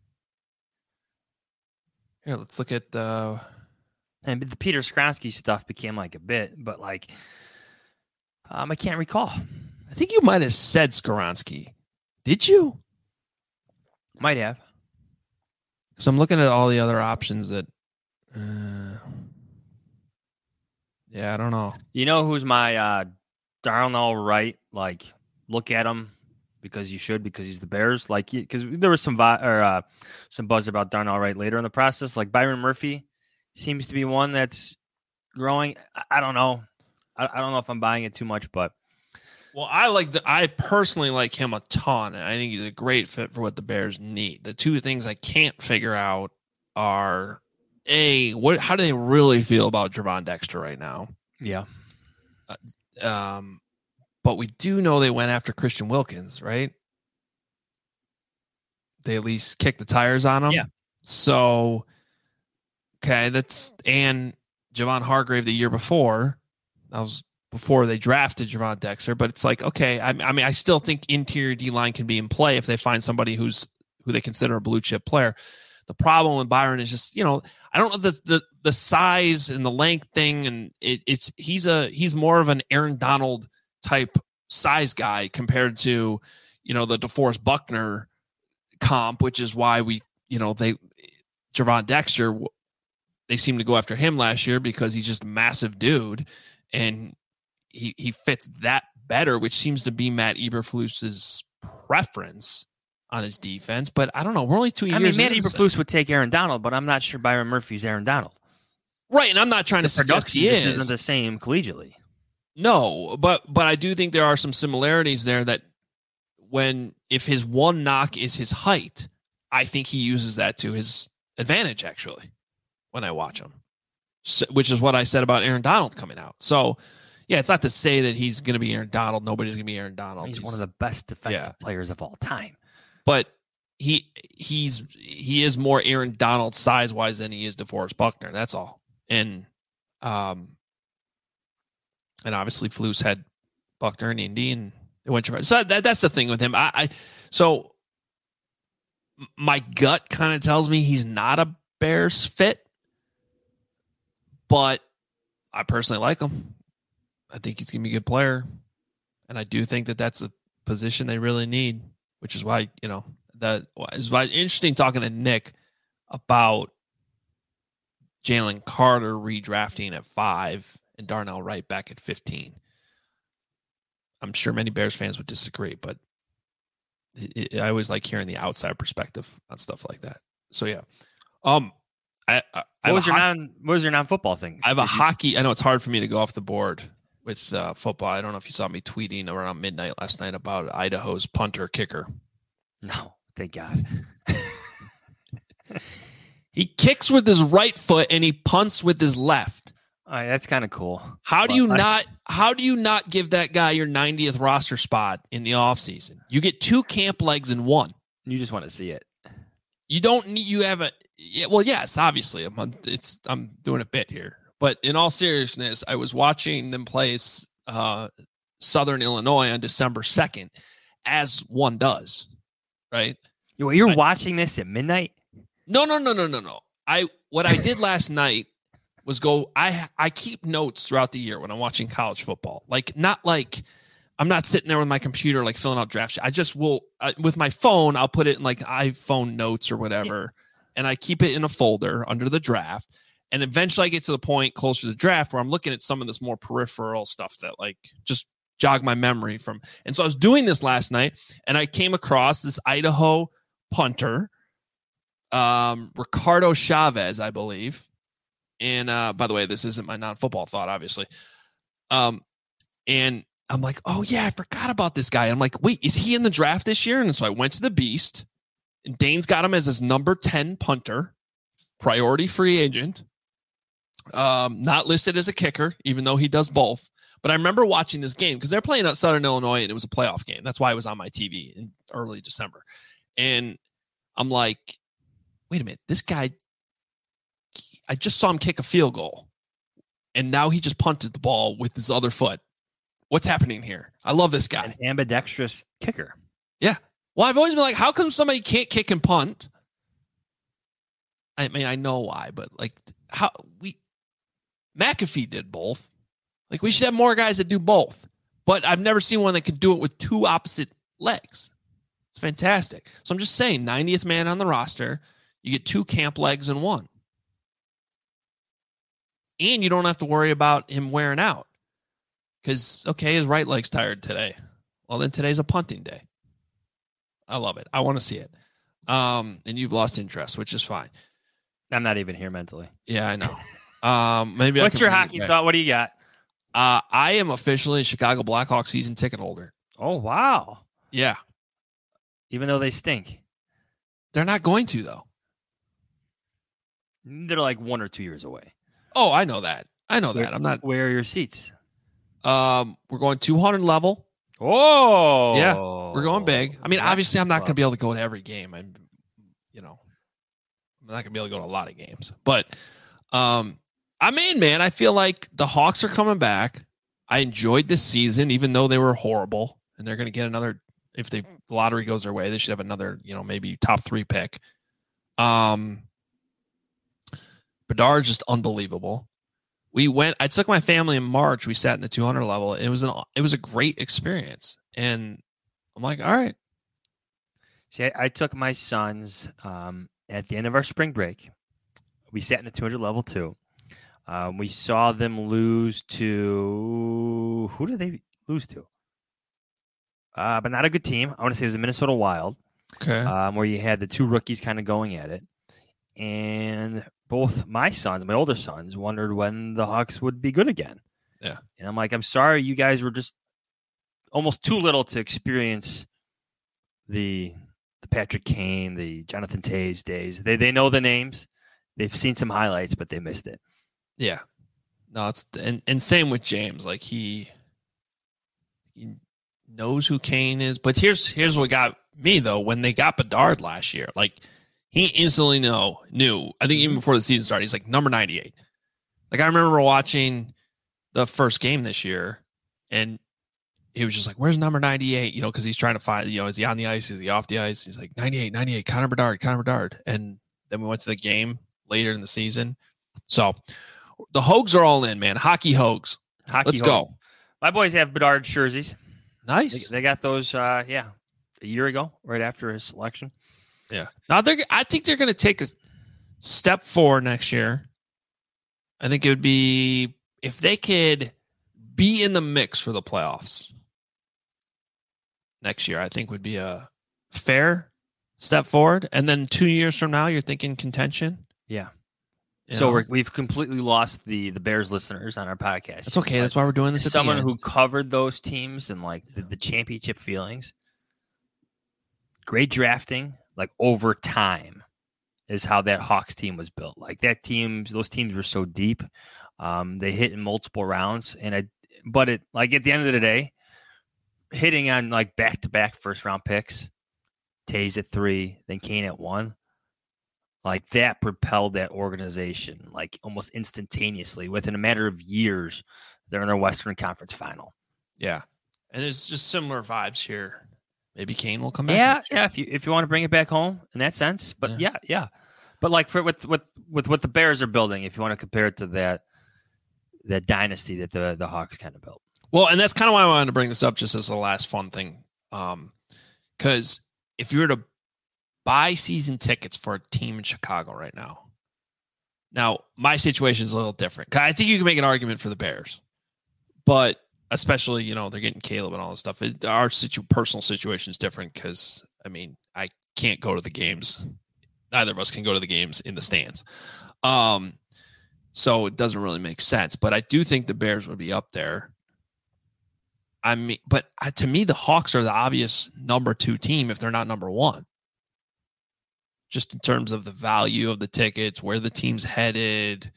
Here, let's look at the... And the Peter Skronsky stuff became like a bit, but like... I can't recall. I think you might have said Skoronsky. Did you? Might have. So I'm looking at all the other options that... yeah, I don't know. You know who's my Darnell Wright? Like, look at him because you should, because he's the Bears. Like, because there was some buzz about Darnell Wright later in the process. Like, Byron Murphy seems to be one that's growing. I don't know. I don't know if I'm buying it too much, but I personally like him a ton, and I think he's a great fit for what the Bears need. The two things I can't figure out are how do they really feel about Javon Dexter right now? Yeah. But we do know they went after Christian Wilkins, right? They at least kicked the tires on him. Yeah. So, okay, and Javon Hargrave the year before. That was before they drafted Javon Dexter, but it's like, okay, I mean, I still think interior D-line can be in play if they find somebody who they consider a blue chip player. The problem with Byron is just, I don't know the size and the length thing, and he's more of an Aaron Donald type size guy compared to, the DeForest Buckner comp, which is why Javon Dexter, they seem to go after him last year because he's just a massive dude. And he fits that better, which seems to be Matt Eberflus's preference on his defense. But I don't know. We're only 2 years. I mean, Matt Eberflus would take Aaron Donald, but I'm not sure Byron Murphy's Aaron Donald. Right, and I'm not trying to suggest he is. Isn't the same collegiately. No, but I do think there are some similarities there that if his one knock is his height, I think he uses that to his advantage, actually, when I watch him. So, which is what I said about Aaron Donald coming out. So, yeah, it's not to say that he's going to be Aaron Donald. Nobody's going to be Aaron Donald. He's one of the best defensive players of all time. But he he is more Aaron Donald size wise than he is DeForest Buckner. That's all. And obviously Flus had Buckner in Indy, and it went to, so that's the thing with him. So my gut kind of tells me he's not a Bears fit, but I personally like him. I think he's going to be a good player. And I do think that that's a position they really need, which is why, that is why interesting talking to Nick about Jalen Carter redrafting at 5 and Darnell Wright back at 15. I'm sure many Bears fans would disagree, but I always like hearing the outside perspective on stuff like that. So yeah. What was your non-football thing? I have a hockey. I know it's hard for me to go off the board with football. I don't know if you saw me tweeting around midnight last night about Idaho's punter kicker. No, thank God. He kicks with his right foot and he punts with his left. All right, that's kind of cool. How do you not give that guy your 90th roster spot in the offseason? You get 2 camp legs in 1. You just want to see it. You don't need, you have a, yeah, well, yes, obviously I'm doing a bit here, but in all seriousness, I was watching them play Southern Illinois on December 2nd, as one does, right? You're watching this at midnight? No. What I did last night was I keep notes throughout the year when I'm watching college football. I'm not sitting there with my computer, like filling out draft sheet. I just will, with my phone, I'll put it in like iPhone notes or whatever. And I keep it in a folder under the draft. And eventually I get to the point closer to the draft where I'm looking at some of this more peripheral stuff that like just jog my memory from. And so I was doing this last night and I came across this Idaho punter, Ricardo Chavez, I believe. And by the way, this isn't my non-football thought, obviously. And I'm like, oh yeah, I forgot about this guy. I'm like, wait, is he in the draft this year? And so I went to the Beast, and Dane's got him as his number 10 punter, priority free agent, not listed as a kicker, even though he does both. But I remember watching this game because they're playing at Southern Illinois, and it was a playoff game. That's why it was on my TV in early December. And I'm like, wait a minute, this guy, I just saw him kick a field goal, and now he just punted the ball with his other foot. What's happening here? I love this guy. An ambidextrous kicker. Yeah. Well, I've always been like, how come somebody can't kick and punt? I mean, I know why, but like McAfee did both. Like we should have more guys that do both, but I've never seen one that can do it with 2 opposite legs. It's fantastic. So I'm just saying 90th man on the roster, you get 2 camp legs in 1. And you don't have to worry about him wearing out. Because, okay, his right leg's tired today. Well, then today's a punting day. I love it. I want to see it. And you've lost interest, which is fine. I'm not even here mentally. Yeah, I know. Maybe. What's your hockey thought? What do you got? I am officially a Chicago Blackhawks season ticket holder. Oh, wow. Yeah. Even though they stink. They're not going to, though. They're like 1 or 2 years away. Oh, I know that. I'm not. Where are your seats? We're going 200 level. Oh, yeah, we're going big. I mean, obviously, I'm not going to be able to go to every game. I'm not going to be able to go to a lot of games. But, I'm in, man. I feel like the Hawks are coming back. I enjoyed this season, even though they were horrible, and they're going to get another. If the lottery goes their way, they should have another, maybe top 3 pick. Bedard's just unbelievable. I took my family in March. We sat in the 200 level. It was a great experience. And I'm like, all right. See, I took my sons at the end of our spring break. We sat in the 200 level too. We saw them lose to, who did they lose to? But not a good team. I want to say it was the Minnesota Wild. Okay. Where you had the 2 rookies kind of going at it. And both my sons, my older sons, wondered when the Hawks would be good again. Yeah. And I'm like, I'm sorry, you guys were just almost too little to experience the Patrick Kane, the Jonathan Toews days. They know the names. They've seen some highlights, but they missed it. Yeah. No, it's and same with James. Like he knows who Kane is. But here's what got me, though, when they got Bedard last year, like, he instantly knew, I think even before the season started, he's like number 98. Like, I remember watching the first game this year, and he was just like, where's number 98? You know, because he's trying to find, is he on the ice? Is he off the ice? He's like, 98, Connor Bedard. And then we went to the game later in the season. So the Hogs are all in, man. Hockey Hogs. Let's go. My boys have Bedard jerseys. Nice. They got those, a year ago, right after his selection. Yeah. Now, I think they're going to take a step forward next year. I think it would be if they could be in the mix for the playoffs next year, I think would be a fair step forward. And then 2 years from now, you're thinking contention. Yeah. So we've completely lost the Bears listeners on our podcast. That's okay. That's why we're doing this. As someone who covered those teams and like the championship feelings, great drafting, like over time, is how that Hawks team was built. Like those teams were so deep. They hit in multiple rounds, but at the end of the day, hitting on like back-to-back first-round picks, Tays at 3, then Kane at 1, like that propelled that organization like almost instantaneously. Within a matter of years, they're in their Western Conference final. Yeah, and it's just similar vibes here. Maybe Kane will come back. Yeah. If you want to bring it back home in that sense, but yeah. But like with what the Bears are building, if you want to compare it to that dynasty that the Hawks kind of built. Well, and that's kind of why I wanted to bring this up just as a last fun thing. Because if you were to buy season tickets for a team in Chicago right now, my situation is a little different. I think you can make an argument for the Bears, but especially, they're getting Caleb and all this stuff. Our personal situation is different because, I can't go to the games. Neither of us can go to the games in the stands. So it doesn't really make sense. But I do think the Bears would be up there. But to me, the Hawks are the obvious number 2 team if they're not number 1. Just in terms of the value of the tickets, where the team's headed.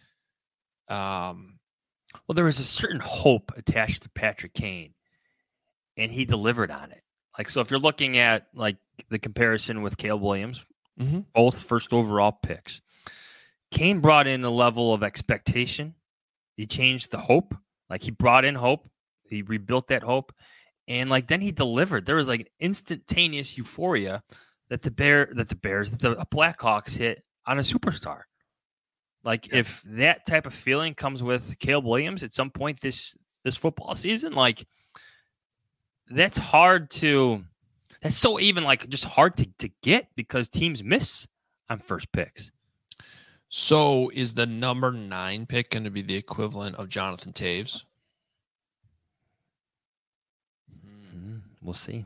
Well, there was a certain hope attached to Patrick Kane, and he delivered on it. Like, so if you're looking at like the comparison with Caleb Williams, both first overall picks, Kane brought in a level of expectation. He changed the hope. Like, he brought in hope. He rebuilt that hope. And like, then he delivered. There was like an instantaneous euphoria that the Blackhawks hit on a superstar. Like, if that type of feeling comes with Caleb Williams at some point this football season, like, that's so even like just hard to get because teams miss on first picks. So is the number 9 pick going to be the equivalent of Jonathan Taves? We'll see.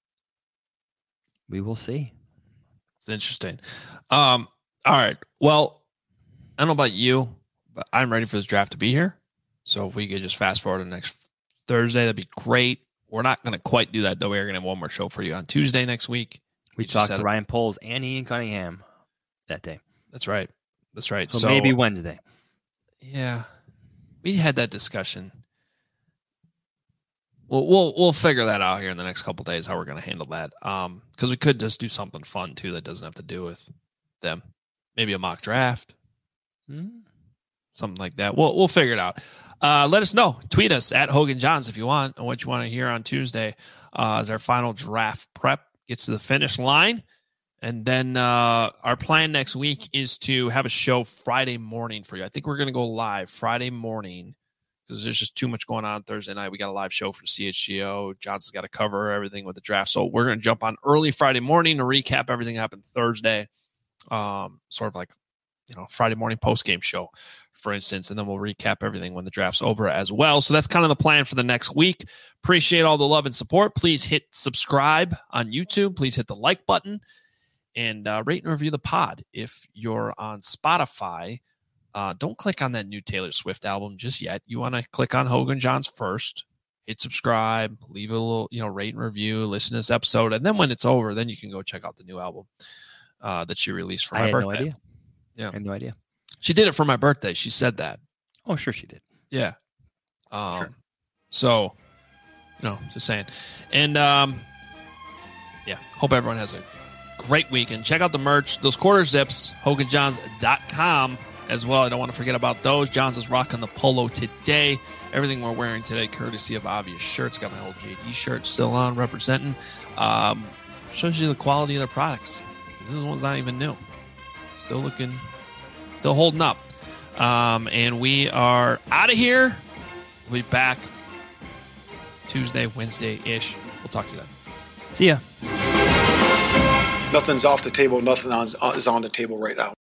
We will see. It's interesting. All right. Well, I don't know about you, but I'm ready for this draft to be here. So if we could just fast forward to next Thursday, that'd be great. We're not going to quite do that, though. We're going to have one more show for you on Tuesday next week. We talked to Ryan Poles and Ian Cunningham that day. That's right. So maybe Wednesday. Yeah. We had that discussion. We'll figure that out here in the next couple of days, how we're going to handle that. Because we could just do something fun, too, that doesn't have to do with them. Maybe a mock draft. Something like that. We'll figure it out. Let us know. Tweet us at Hogan Johns if you want, and what you want to hear on Tuesday as our final draft prep gets to the finish line. And then our plan next week is to have a show Friday morning for you. I think we're going to go live Friday morning because there's just too much going on Thursday night. We got a live show for CHGO. Johnson's got to cover everything with the draft. So we're going to jump on early Friday morning to recap everything that happened Thursday. Sort of like, Friday morning post-game show, for instance, and then we'll recap everything when the draft's over as well. So that's kind of the plan for the next week. Appreciate all the love and support. Please hit subscribe on YouTube. Please hit the like button and rate and review the pod. If you're on Spotify, don't click on that new Taylor Swift album just yet. You want to click on Hogan Johns first, hit subscribe, leave a little, rate and review, listen to this episode, and then when it's over, then you can go check out the new album that she released for my birthday. No idea. Yeah. I had no idea. She did it for my birthday. She said that. Oh, sure she did. Yeah. Sure. So, just saying. And yeah, hope everyone has a great weekend. Check out the merch, those quarter zips, HoganJohns.com as well. I don't want to forget about those. Johns is rocking the polo today. Everything we're wearing today, courtesy of Obvious Shirts. Got my old JD shirt still on, representing. Shows you the quality of their products. This one's not even new. Still holding up. And we are out of here. We'll be back Tuesday, Wednesday-ish. We'll talk to you then. See ya. Nothing's off the table. Nothing is on the table right now.